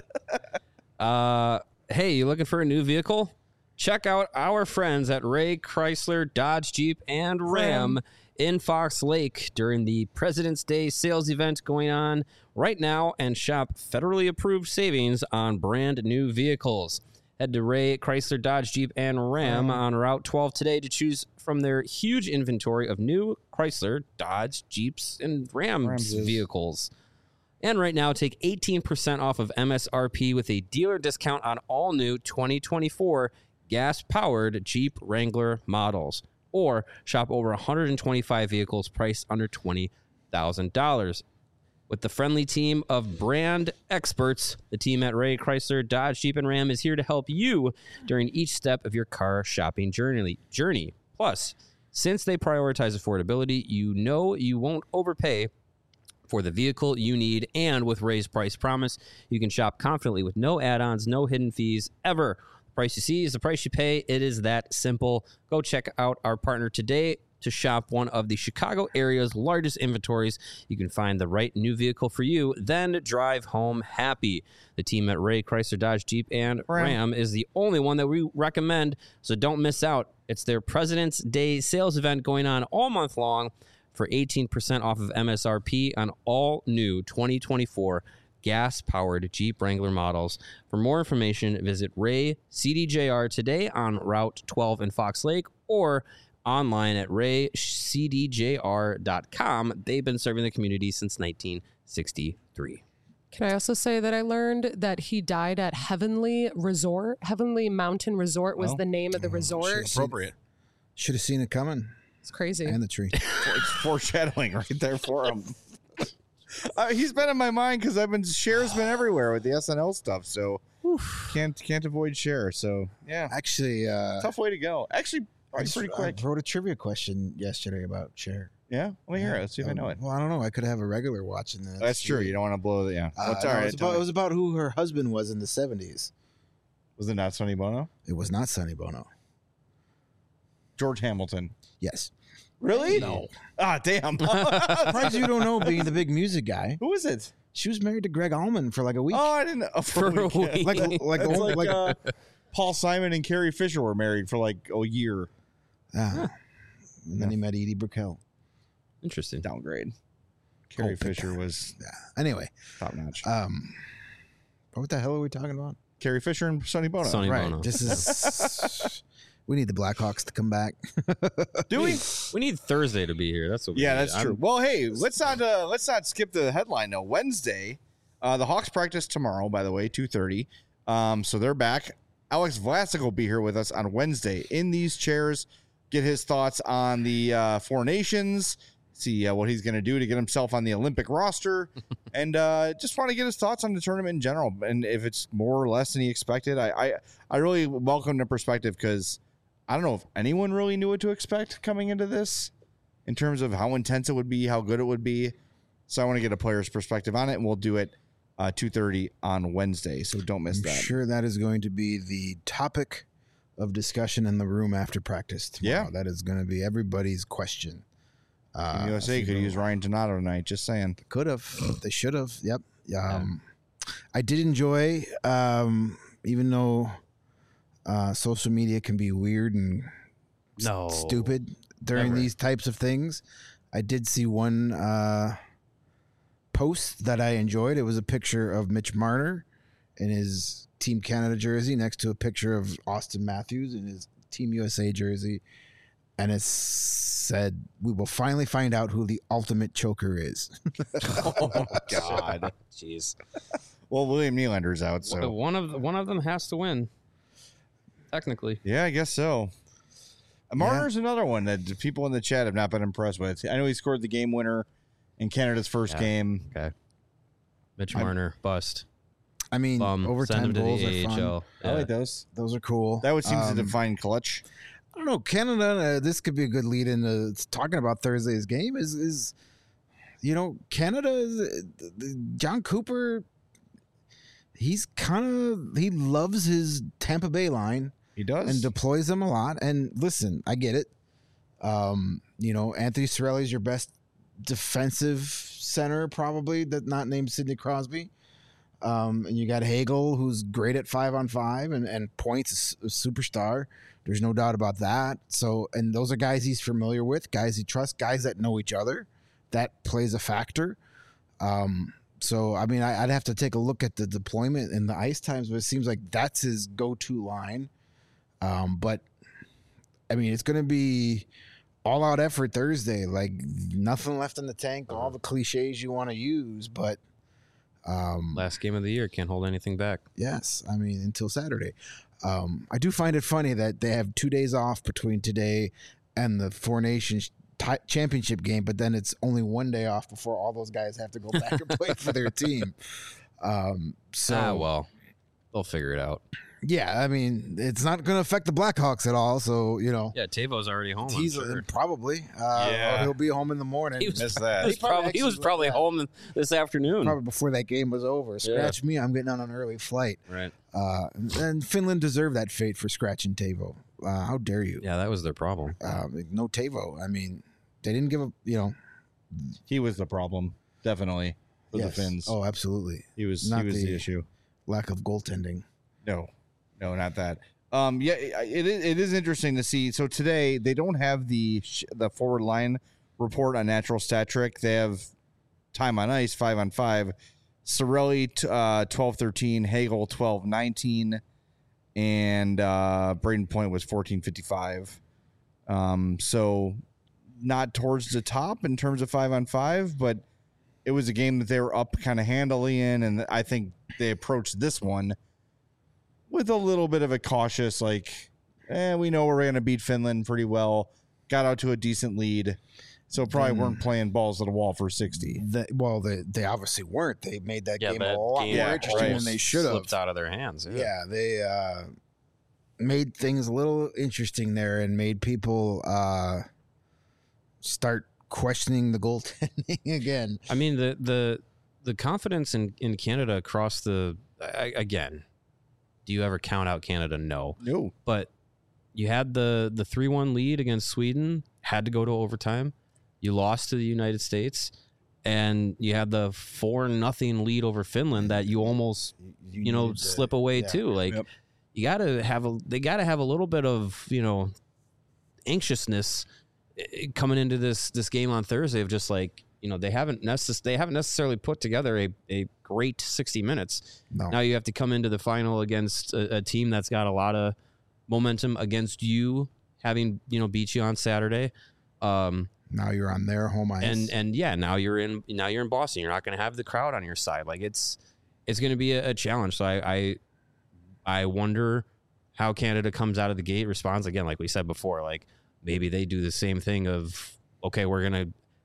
Hey, you looking for a new vehicle? Check out our friends at Ray Chrysler, Dodge, Jeep, and Ram in Fox Lake during the President's Day sales event going on right now, and shop federally approved savings on brand new vehicles. Head to Ray Chrysler, Dodge, Jeep, and Ram on Route 12 today to choose from their huge inventory of new Chrysler, Dodge, Jeeps, and Rams vehicles. And right now, take 18% off of MSRP with a dealer discount on all new 2024 gas-powered Jeep Wrangler models. Or shop over 125 vehicles priced under $20,000. With the friendly team of brand experts, the team at Ray Chrysler, Dodge, Jeep, and Ram is here to help you during each step of your car shopping journey. Plus, since they prioritize affordability, you know you won't overpay for the vehicle you need, and with Ray's price promise, you can shop confidently with no add-ons, no hidden fees ever. The price you see is the price you pay. It is that simple. Go check out our partner today to shop one of the Chicago area's largest inventories. You can find the right new vehicle for you, then drive home happy. The team at Ray Chrysler, Dodge, Jeep, and Ram is the only one that we recommend, so don't miss out. It's their President's Day sales event going on all month long for 18% off of MSRP on all new 2024 gas-powered Jeep Wrangler models. For more information, visit Ray CDJR today on Route 12 in Fox Lake or online at raycdjr.com. They've been serving the community since 1963. Can I also say that I learned that he died at Heavenly Resort? Heavenly Mountain Resort was the name of the resort. Appropriate. Should have seen it coming. It's crazy. And the tree. It's foreshadowing right there for him. He's been in my mind because Cher's been everywhere with the SNL stuff, so can't avoid Cher. So yeah, actually, tough way to go. Actually, pretty quick. I wrote a trivia question yesterday about Cher. Yeah, let me hear it. Let's see if I know it. Well, I don't know. I could have a regular watching this. That's true. You don't want to blow the It's all right. It was about who her husband was in the 70s. Was it not Sonny Bono? It was not Sonny Bono. George Hamilton. Yes. Really? No. Ah, damn. Surprised you don't know, being the big music guy. Who is it? She was married to Greg Allman for like a week. Oh, I didn't know. For a week. Like Paul Simon and Carrie Fisher were married for like a year. And then he met Edie Brickell. Interesting. Downgrade. Carrie Fisher was anyway top notch. What the hell are we talking about? Carrie Fisher and Sonny Bono. Sonny Bono. This is. We need the Blackhawks to come back. Do we? We need Thursday to be here. That's what we need. That's true. Well, hey, let's not skip the headline though. Wednesday, the Hawks practice tomorrow, by the way, 2:30. So they're back. Alex Vlasic will be here with us on Wednesday in these chairs. Get his thoughts on the Four Nations, see what he's going to do to get himself on the Olympic roster, and just want to get his thoughts on the tournament in general, and if it's more or less than he expected. I really welcome the perspective because I don't know if anyone really knew what to expect coming into this in terms of how intense it would be, how good it would be. So I want to get a player's perspective on it, and we'll do it 2:30 on Wednesday, so don't miss that. I'm sure that is going to be the topic of discussion in the room after practice tomorrow. Yeah. That is going to be everybody's question. USA could use Ryan Donato tonight, just saying. Could have. They should have. Yep. I did enjoy, even though social media can be weird and stupid during these types of things, I did see one post that I enjoyed. It was a picture of Mitch Marner in his Team Canada jersey next to a picture of Austin Matthews in his Team USA jersey. And it said, "We will finally find out who the ultimate choker is." Oh, God. Jeez. Well, William Nylander's out, so one of them has to win. Technically. Yeah, I guess so. Marner's another one that people in the chat have not been impressed with. I know he scored the game winner in Canada's first game. Okay. Mitch Marner, bust. I mean, overtime goals are fun. Yeah. I like those. Those are cool. That would seem to define clutch. I don't know. Canada, this could be a good lead into talking about Thursday's game is Canada, John Cooper, he loves his Tampa Bay line. He does. And deploys them a lot. And listen, I get it. Anthony Cirelli is your best defensive center, probably, that not named Sidney Crosby. And you got Hagel, who's great at 5-on-5 and points, a superstar. There's no doubt about that. So, and those are guys he's familiar with, guys he trusts, guys that know each other. That plays a factor. So, I mean, I'd have to take a look at the deployment and the ice times, but it seems like that's his go-to line. But, I mean, it's going to be all-out effort Thursday. Like, nothing left in the tank, all the cliches you want to use, but last game of the year, can't hold anything back. Yes, I mean, until Saturday. I do find it funny that they have 2 days off between today and the Four Nations championship game, but then it's only 1 day off before all those guys have to go back and play for their team. Well, they'll figure it out. Yeah, I mean, it's not going to affect the Blackhawks at all. So, Yeah, Tavo's already home. He's probably. Or he'll be home in the morning. He was probably home this afternoon. Probably before that game was over. Scratch me, I'm getting on an early flight. Right. And Finland deserved that fate for scratching Tavo. How dare you? Yeah, that was their problem. No Tavo. I mean, they didn't give a, He was the problem, definitely, for the Finns. Oh, absolutely. He was the issue. Lack of goaltending. No, not that. It is interesting to see. So today they don't have the forward line report on Natural Stat Trick. They have time on ice 5-on-5. Cirelli 12-13, Hagel 12-19, and Braden Point was 14-55. So not towards the top in terms of 5-on-5, but it was a game that they were up kind of handily in, and I think they approached this one with a little bit of a cautious, we know we're going to beat Finland pretty well. Got out to a decent lead, so probably weren't playing balls to the wall for 60. They obviously weren't. They made that game a lot more interesting than they should have. Slipped out of their hands. Yeah, they made things a little interesting there and made people start questioning the goaltending again. I mean, the confidence in Canada across again. Do you ever count out Canada? No. But you had the 3-1 lead against Sweden, had to go to overtime. You lost to the United States, and you had the 4-0 lead over Finland that you almost slip away too. They got to have a little bit of anxiousness coming into this game on Thursday of just they haven't necessarily put together a great 60 minutes. No. Now you have to come into the final against a team that's got a lot of momentum against you, having beat you on Saturday. Now you're on their home ice, and now you're in Boston. You're not going to have the crowd on your side. It's going to be a challenge. So I wonder how Canada comes out of the gate, responds again, like we said before. Maybe they do the same thing of, okay, we're gonna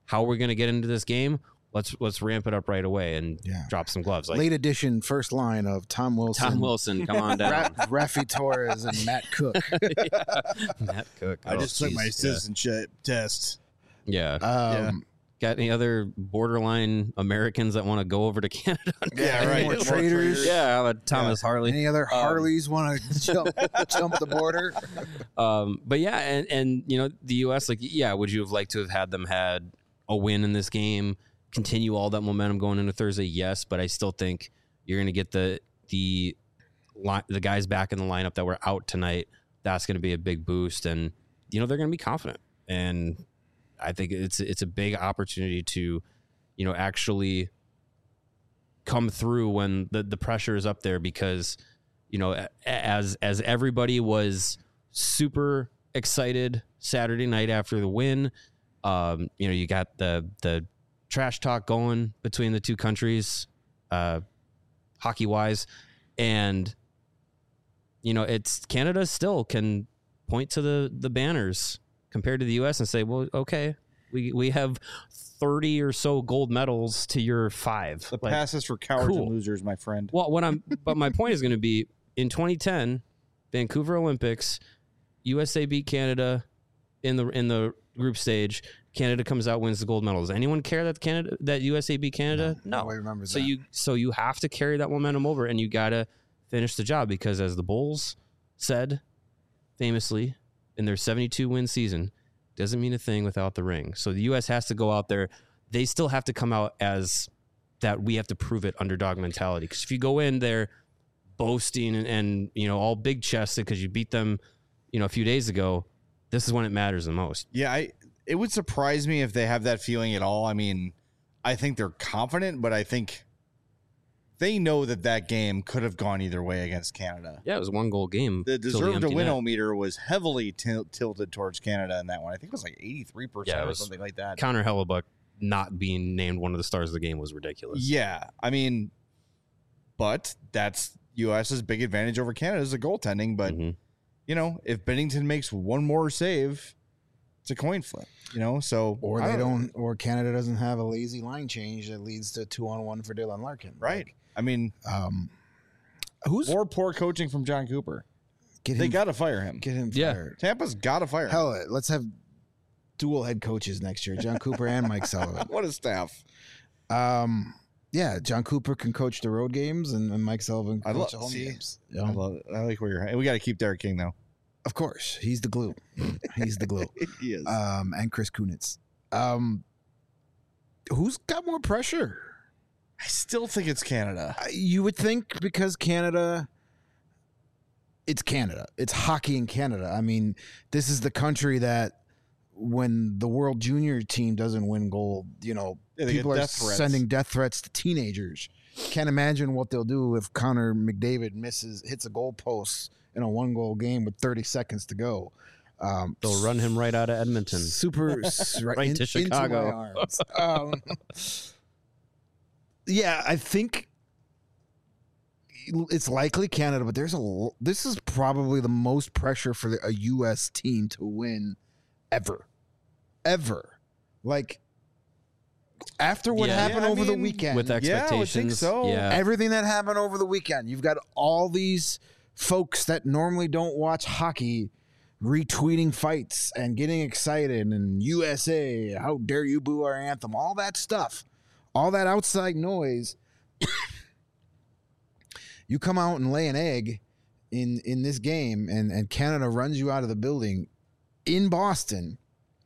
how we're going to get into this game. Let's ramp it up right away and drop some gloves. Late edition first line of Tom Wilson, come on down. Rafi Torres and Matt Cook. Matt Cook. I just took my citizenship test. Yeah. Got any other borderline Americans that want to go over to Canada? Yeah, right. More traders. Yeah, Thomas Harley. Any other Harleys want to jump the border? But yeah, and the U.S. would you have liked to have had them had a win in this game? Continue all that momentum going into Thursday, yes, but I still think you're going to get the guys back in the lineup that were out tonight. That's going to be a big boost, and they're going to be confident. And I think it's a big opportunity to, actually come through when the pressure is up there, because as everybody was super excited Saturday night after the win, you got the trash talk going between the two countries, hockey wise, and it's Canada still can point to the banners compared to the U.S. and say, well, okay, we have 30 or so gold medals to your 5. The past is for cowards and losers, my friend. Well, but my point is going to be, in 2010 Vancouver Olympics, USA beat Canada in the group stage. Canada comes out, wins the gold medals. Anyone care that USA beat Canada? No. Nobody remembers that. So you have to carry that momentum over, and you got to finish the job, because as the Bulls said famously in their 72-win season, doesn't mean a thing without the ring. So the U.S. has to go out there. They still have to come out as that we have to prove it underdog mentality. Because if you go in there boasting and all big chested because you beat them, a few days ago, this is when it matters the most. Yeah, it would surprise me if they have that feeling at all. I mean, I think they're confident, but I think they know that game could have gone either way against Canada. Yeah, it was a 1-goal game. The deserve-to-win-o-meter was heavily tilted towards Canada in that one. I think it was like 83% or something like that. Connor Hellebuyck not being named one of the stars of the game was ridiculous. Yeah, I mean, but that's U.S.'s big advantage over Canada is the goaltending. But, if Binnington makes one more save, it's a coin flip, so. Or Canada doesn't have a lazy line change that leads to 2-on-1 for Dylan Larkin. Right. I mean, who's more poor coaching from John Cooper? They got to fire him. Get him fired. Tampa's got to fire him. Hell, let's have dual head coaches next year, John Cooper and Mike Sullivan. What a staff. Yeah, John Cooper can coach the road games, and Mike Sullivan can coach the home games. Yeah. I love it. I like where you're at. We got to keep Derek King, though. Of course. He's the glue. He's the glue. He is. And Chris Kunitz. Who's got more pressure? I still think it's Canada. You would think, because Canada, it's Canada. It's hockey in Canada. I mean, this is the country that when the World Junior team doesn't win gold, people are sending death threats to teenagers. Can't imagine what they'll do if Connor McDavid hits a goal post in a 1-goal game with 30 seconds to go. They'll run him right out of Edmonton. Right to Chicago. Into my arms. Yeah, I think it's likely Canada, but this is probably the most pressure for a U.S. team to win ever. Like, after what happened over the weekend. With expectations. Yeah, I think so. Yeah. Everything that happened over the weekend. You've got all these folks that normally don't watch hockey retweeting fights and getting excited, and USA, how dare you boo our anthem, all that stuff, all that outside noise. You come out and lay an egg in this game, and Canada runs you out of the building in Boston,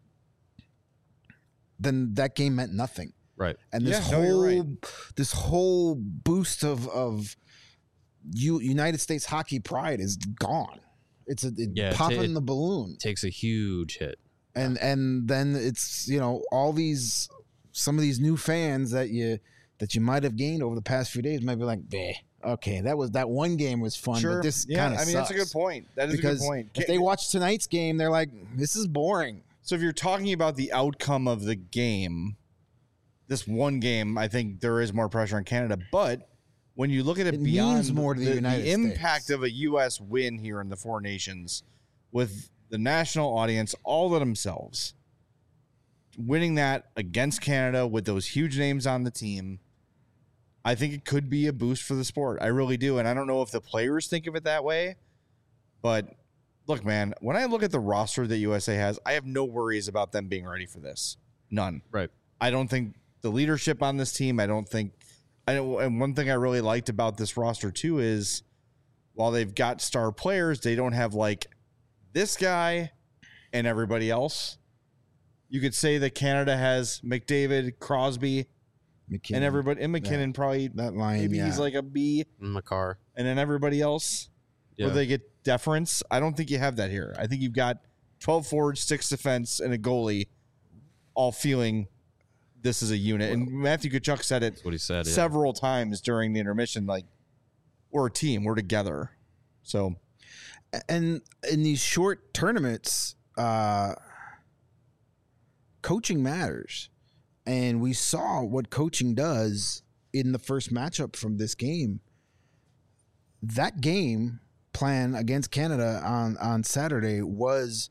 then that game meant nothing. Right. And this whole boost of United States hockey pride is gone. It's popping the balloon. Takes a huge hit. And then it's, some of these new fans that you might have gained over the past few days might be like, okay, that one game was fun, but this kind of sucks. That's a good point. That is a good point. If they watch tonight's game, they're like, this is boring. So if you're talking about the outcome of the game, this one game, I think there is more pressure on Canada, but when you look at it beyond more to the United States. Impact of a U.S. win here in the Four Nations with the national audience all to themselves, winning that against Canada with those huge names on the team, I think it could be a boost for the sport. I really do. And I don't know if the players think of it that way, but look, man, when I look at the roster that USA has, I have no worries about them being ready for this. None. Right. I don't think the leadership on this team, and one thing I really liked about this roster too is while they've got star players, they don't have like this guy and everybody else. You could say that Canada has McDavid, Crosby, McKinnon, and everybody, and McKinnon probably that line. Maybe he's like a B, Makar, and then everybody else where they get deference. I don't think you have that here. I think you've got 12 forwards, 6 defense, and a goalie, all feeling this is a unit. And Matthew Tkachuk said it. That's what he said several times during the intermission. Like, we're a team. We're together. So, and in these short tournaments, coaching matters. And we saw what coaching does in the first matchup from this game. That game plan against Canada on Saturday was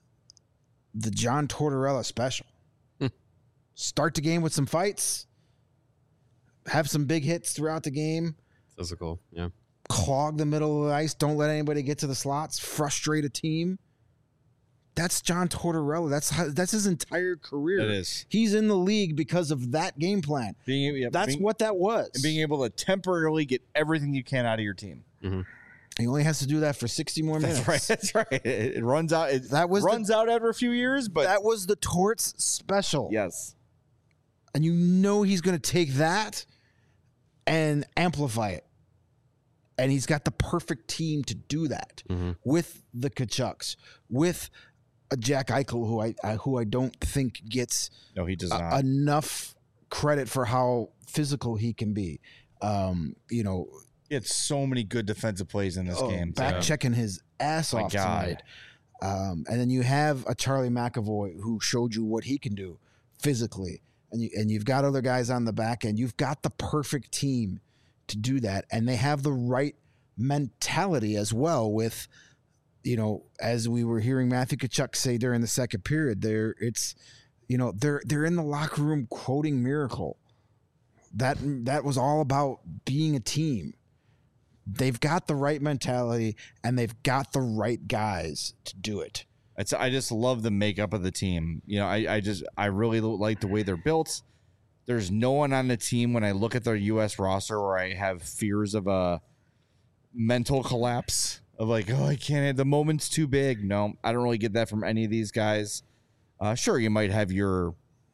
the John Tortorella special. Start the game with some fights, have some big hits throughout the game. Physical, yeah. Clog the middle of the ice. Don't let anybody get to the slots. Frustrate a team. That's John Tortorella. That's his entire career. It is. He's in the league because of that game plan. That's what that was. And being able to temporarily get everything you can out of your team. Mm-hmm. He only has to do that for 60 more minutes. That's right. It runs out. Runs out after a few years, but that was the Torts special. Yes. And you know he's going to take that and amplify it. And he's got the perfect team to do that with the Tkachuks, with a Jack Eichel, who I don't think gets he does not. Enough credit for how physical he can be. He had so many good defensive plays in this game. Checking his ass off tonight. And then you have a Charlie McAvoy who showed you what he can do physically. And you've got other guys on the back end. You've got the perfect team to do that. And they have the right mentality as well with, as we were hearing Matthew Tkachuk say during the second period, they're in the locker room quoting Miracle. That was all about being a team. They've got the right mentality and they've got the right guys to do it. I just love the makeup of the team. I really like the way they're built. There's no one on the team when I look at their U.S. roster where I have fears of a mental collapse of like, oh, I can't. The moment's too big. No, I don't really get that from any of these guys. Sure, you might have your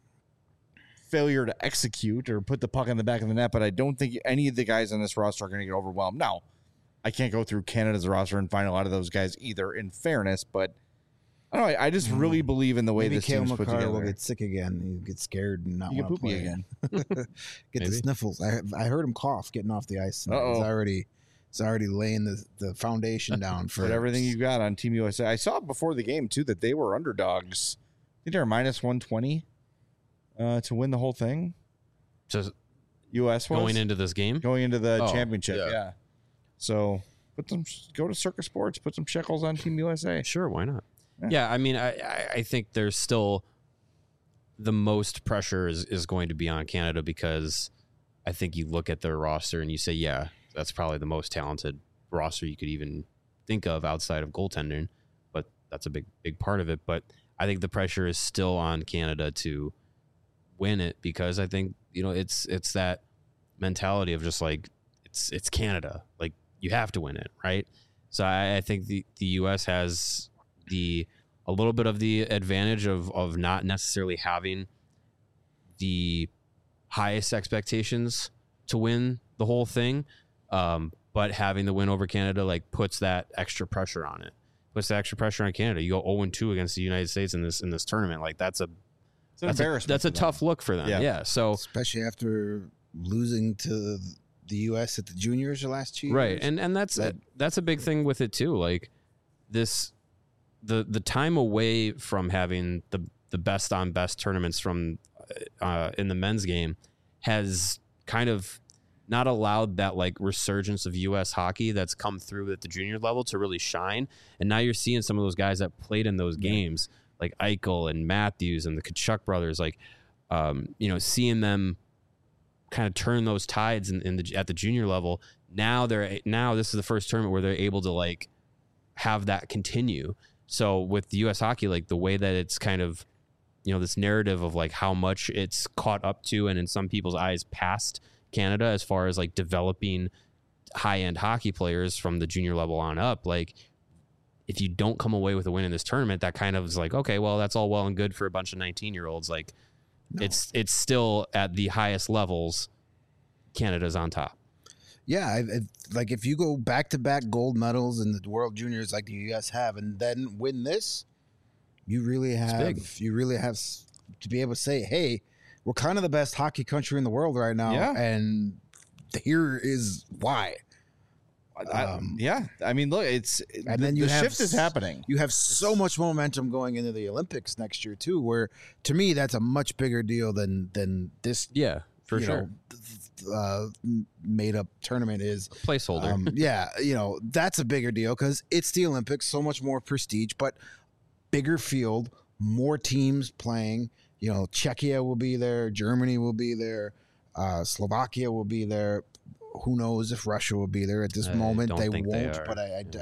failure to execute or put the puck in the back of the net, but I don't think any of the guys on this roster are going to get overwhelmed. Now, I can't go through Canada's roster and find a lot of those guys either, in fairness, but I don't know. I just really believe in the way this team's put together. Will get sick again. He get scared and not want to play again. Get the sniffles. I heard him cough getting off the ice. He's already laying the foundation down for everything you got on Team USA. I saw before the game too that they were underdogs. I think they're minus 120 to win the whole thing. Just US was going into this game, going into the championship. Yeah. So go to Circus Sports, put some shekels on Team USA. Sure, why not? Yeah, I mean, I think there's still the most pressure is going to be on Canada because I think you look at their roster and you say, yeah, that's probably the most talented roster you could even think of outside of goaltending, but that's a big part of it. But I think the pressure is still on Canada to win it because I think, it's that mentality of just like, it's Canada. Like, you have to win it, right? So I think the U.S. has a little bit of the advantage of not necessarily having the highest expectations to win the whole thing, but having the win over Canada puts that extra pressure on it. Puts the extra pressure on Canada. You go 0-2 against the United States in this tournament. That's an embarrassment. That's a tough look for them. Yeah. So especially after losing to the U.S. at the juniors the last 2 years, right? And that's a big thing with it too. Like this. The time away from having the best on best tournaments from in the men's game has kind of not allowed that resurgence of U.S. hockey that's come through at the junior level to really shine. And now you're seeing some of those guys that played in those games like Eichel and Matthews and the Tkachuk brothers, like, seeing them kind of turn those tides at the junior level. Now this is the first tournament where they're able to like have that continue. So with the U.S. hockey, like the way that it's kind of, this narrative of like how much it's caught up to, and in some people's eyes past Canada as far as like developing high-end hockey players from the junior level on up. Like if you don't come away with a win in this tournament, that kind of is like, okay, well, that's all well and good for a bunch of 19-year-olds. Like it's still at the highest levels. Canada's on top. Yeah, like if you go back-to-back gold medals in the World Juniors like the U.S. have, and then win this, you really have to be able to say, hey, we're kind of the best hockey country in the world right now, and here is why. I mean, look, the shift is happening. You have so much momentum going into the Olympics next year too, where to me that's a much bigger deal than this. Yeah, for sure. Made up tournament is placeholder. That's a bigger deal because it's the Olympics, so much more prestige, but bigger field, more teams playing. Czechia will be there, Germany will be there, Slovakia will be there. Who knows if Russia will be there at this moment? They won't, but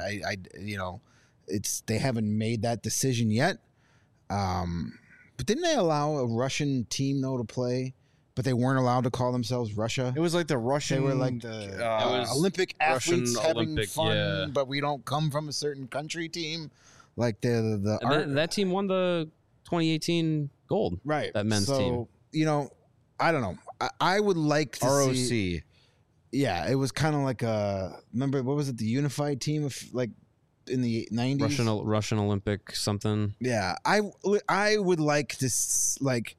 they haven't made that decision yet. But didn't they allow a Russian team though to play? But they weren't allowed to call themselves Russia. It was like the Russian. They were like the Olympic athletes having fun, but we don't come from a certain country team. Like that team won the 2018 gold. Right, that men's team. I don't know. I would like to ROC. See. Yeah, it was kind of like remember what was it? The unified team of like in the 90s. Russian Olympic something. Yeah, I would like to like.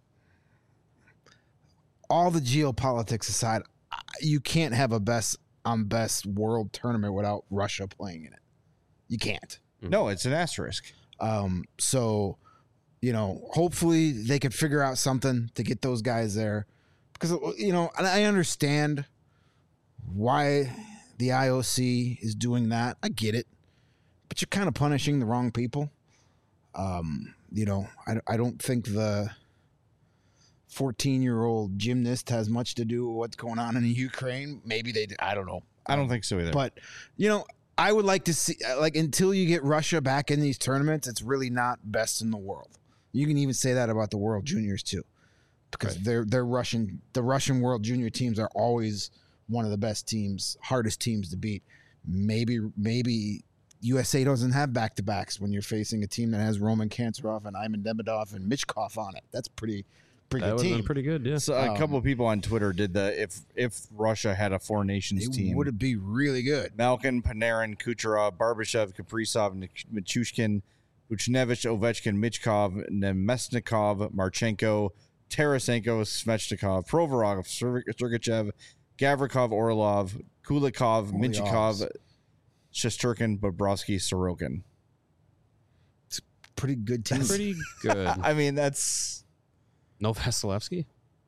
All the geopolitics aside, you can't have a best world tournament without Russia playing in it. You can't. No, it's an asterisk. So, hopefully they could figure out something to get those guys there, because and I understand why the IOC is doing that. I get it, but you're kind of punishing the wrong people. I don't think the 14-year-old gymnast has much to do with what's going on in Ukraine. Maybe they, I don't know. I don't think so either. But, I would like to see, like, until you get Russia back in these tournaments, it's really not best in the world. You can even say that about the World Juniors too, because the Russian World Junior teams are always one of the best teams, hardest teams to beat. Maybe USA doesn't have back-to-backs when you're facing a team that has Roman Kantarov and Ivan Demidov and Michkov on it. That's pretty good team. Pretty good, yeah. So a couple of people on Twitter did if Russia had a Four Nations team, would it be really good? Malkin, Panarin, Kucherov, Barbashev, Kaprizov, Michushkin, Buchnevich, Ovechkin, Michkov, Nemesnikov, Marchenko, Tarasenko, Svechnikov, Provorov, Sergachev, Gavrikov, Orlov, Kulikov, Minchikov, Shesterkin, Bobrovsky, Sorokin. It's a pretty good team. Pretty good. I mean, that's... No Vasilevsky?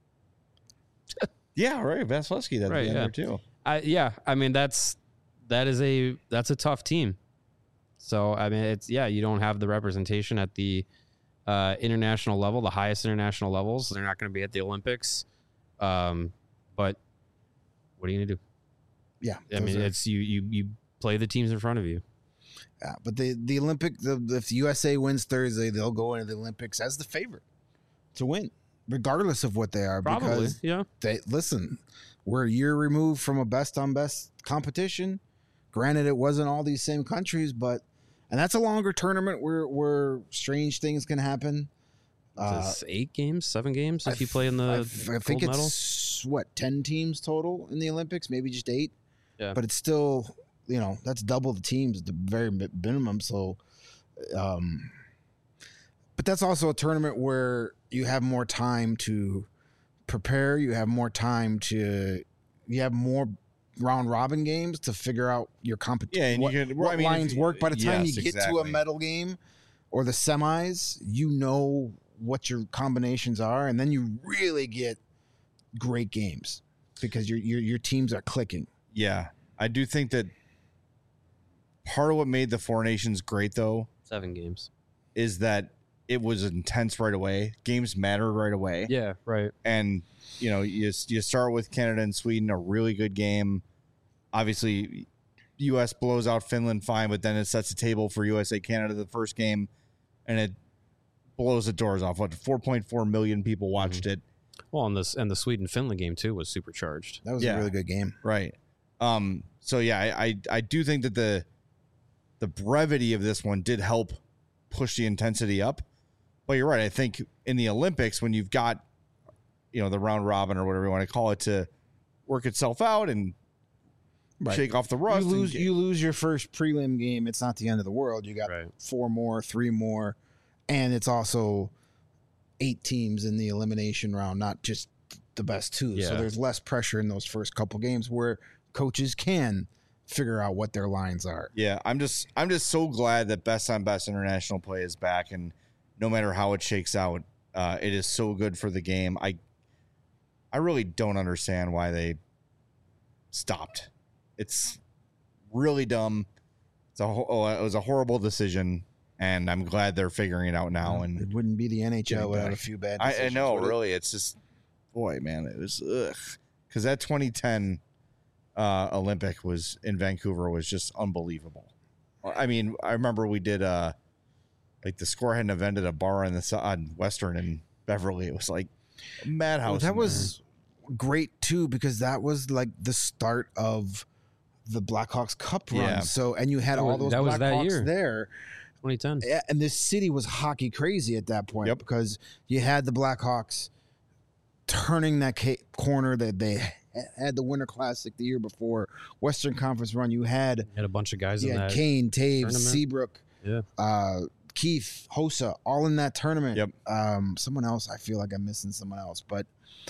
Yeah, right. Vasilevsky that'd be in there too. I mean that's a tough team. So I mean you don't have the representation at the international level, the highest international levels. They're not going to be at the Olympics. But what are you going to do? Yeah. I mean it's you play the teams in front of you. Yeah, but the Olympic if the USA wins Thursday, they'll go into the Olympics as the favorite to win, regardless of what they are. Probably, because we're a year removed from a best on best competition. Granted, it wasn't all these same countries, and that's a longer tournament where strange things can happen. It's 8 games, 7 games if you play in the I think gold it's 10 teams total in the Olympics, maybe just 8. Yeah, but it's still that's double the teams at the very minimum. So, but that's also a tournament where you have more time to prepare. You have more time you have more round robin games to figure out your competition. Yeah, and what lines work. By the time you get to a medal game or the semis, what your combinations are, and then you really get great games because your teams are clicking. Yeah, I do think that part of what made the Four Nations great, though, 7 games, is that it was intense right away. Games mattered right away. Yeah, right. And, you start with Canada and Sweden, a really good game. Obviously, U.S. blows out Finland fine, but then it sets the table for USA-Canada the first game, and it blows the doors off. 4.4 million people watched it. Well, and the Sweden-Finland game, too, was supercharged. That was a really good game. Right. So, yeah, I do think that the brevity of this one did help push the intensity up. But you're right. I think in the Olympics, when you've got, the round robin or whatever you want to call it to work itself out and shake off the rust. You lose your first prelim game. It's not the end of the world. You got 4 more, 3 more, and it's also 8 teams in the elimination round, not just the best 2. Yeah. So there's less pressure in those first couple games where coaches can figure out what their lines are. Yeah, I'm just so glad that best on best international play is back, and no matter how it shakes out, it is so good for the game. I really don't understand why they stopped. It's really dumb. It was a horrible decision, and I'm glad they're figuring it out now. And it wouldn't be the NHL without a few bad decisions. I know, really. It's just, boy, man, it was because that 2010 Olympic was in Vancouver was just unbelievable. I mean, I remember we did like the score had an event at a bar on Western in Beverly. It was like a madhouse. That was great too, because that was like the start of the Blackhawks Cup run. Yeah. So, and you had all those Blackhawks there. 2010. Yeah, and this city was hockey crazy at that point because you had the Blackhawks turning that corner that they had the Winter Classic the year before, Western Conference run. You had a bunch of guys in that. Kane, Taves, Seabrook, Keith, Hossa, all in that tournament. Yep. Someone else, I feel like I'm missing someone else, but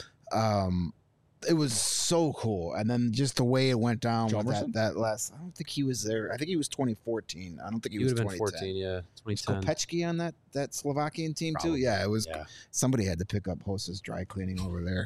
it was so cool. And then just the way it went down with that last, I don't think he was there. I think he was 2014. I don't think he was 2014. Yeah, 2010. Kopechki on that Slovakian team too. Yeah, it was. Yeah. Somebody had to pick up Hossa's dry cleaning over there.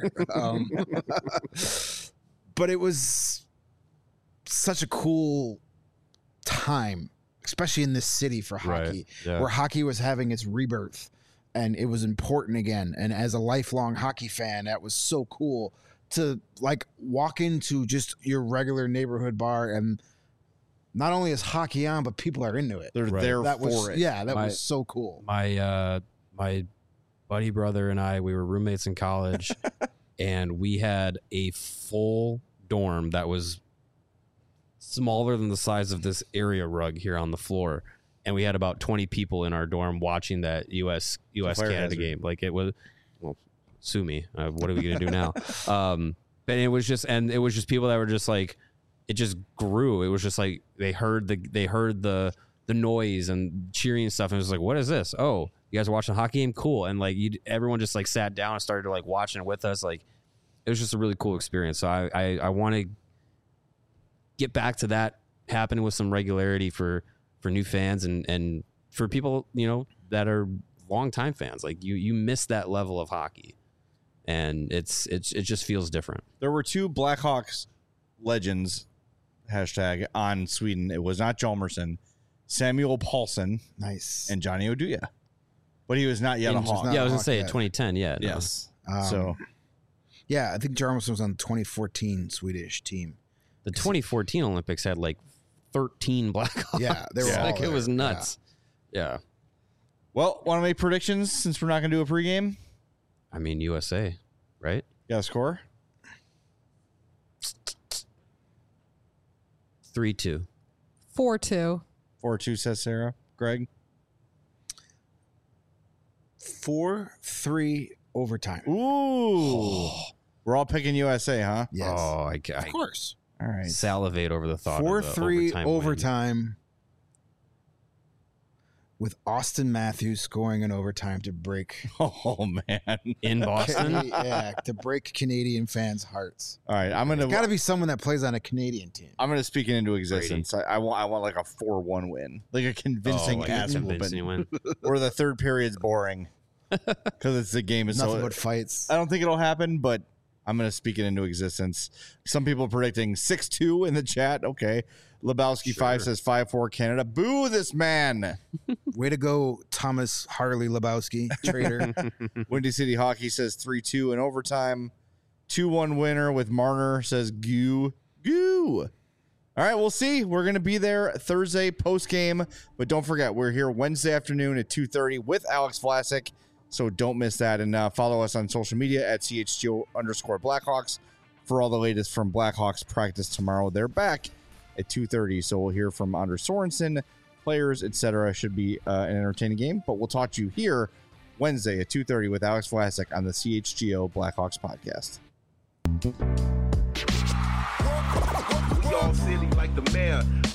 But it was such a cool time, especially in this city for hockey, where hockey was having its rebirth and it was important again. And as a lifelong hockey fan, that was so cool to like walk into just your regular neighborhood bar and not only is hockey on, but people are into it. They're there for it. Yeah, that was so cool. My buddy brother and I, we were roommates in college and we had a full dorm that was smaller than the size of this area rug here on the floor. And we had about 20 people in our dorm watching that US Canada game. Like it was, well, sue me. What are we going to do now? But it was just people that were just like, it just grew. It was just like, they heard the noise and cheering and stuff. And it was like, what is this? Oh, you guys are watching a hockey game? Cool. And like everyone just like sat down and started to like watching it with us. Like it was just a really cool experience. So I want to get back to that happening with some regularity for new fans and for people, that are longtime fans. Like you miss that level of hockey, and it just feels different. There were 2 Blackhawks legends hashtag on Sweden. It was not Hjalmarsson, Samuel Paulson, nice, and Johnny Oduya, but he was not yet a Hawk. Yeah, I was gonna say 2010. Yeah, yes. No. Yeah, I think Hjalmarsson was on the 2014 Swedish team. The 2014 Olympics had like 13 Blackhawks. Yeah, they were all like there. It was nuts. Yeah. Well, want to make predictions since we're not going to do a pregame? I mean, USA, right? Yeah, score? 3-2. 4-2. 4-2 says Sarah. Greg? 4-3 overtime. Ooh. We're all picking USA, huh? Yes. Oh, of course. All right. Salivate over the thought 4-3 of the overtime with Austin Matthews scoring in overtime to break. Oh, man. In Boston? To break Canadian fans' hearts. All right. It's got to be someone that plays on a Canadian team. I'm going to speak it into existence. I want like a 4-1 win. Like a convincing win. Or the third period's boring. Because it's the game. Is nothing but fights. I don't think it'll happen, but I'm going to speak it into existence. Some people predicting 6-2 in the chat. Okay. Lebowski5 says 5-4 Canada. Boo this man. Way to go, Thomas Harley Lebowski, traitor. Windy City Hockey says 3-2 in overtime. 2-1 winner with Marner says goo. All right, we'll see. We're going to be there Thursday post-game. But don't forget, we're here Wednesday afternoon at 2:30 with Alex Vlasic. So don't miss that. And follow us on social media at CHGO_Blackhawks for all the latest from Blackhawks practice tomorrow. They're back at 2:30. So we'll hear from Anders Sorensen, players, etc. Should be an entertaining game. But we'll talk to you here Wednesday at 2:30 with Alex Vlasic on the CHGO Blackhawks podcast. We all silly like the mayor.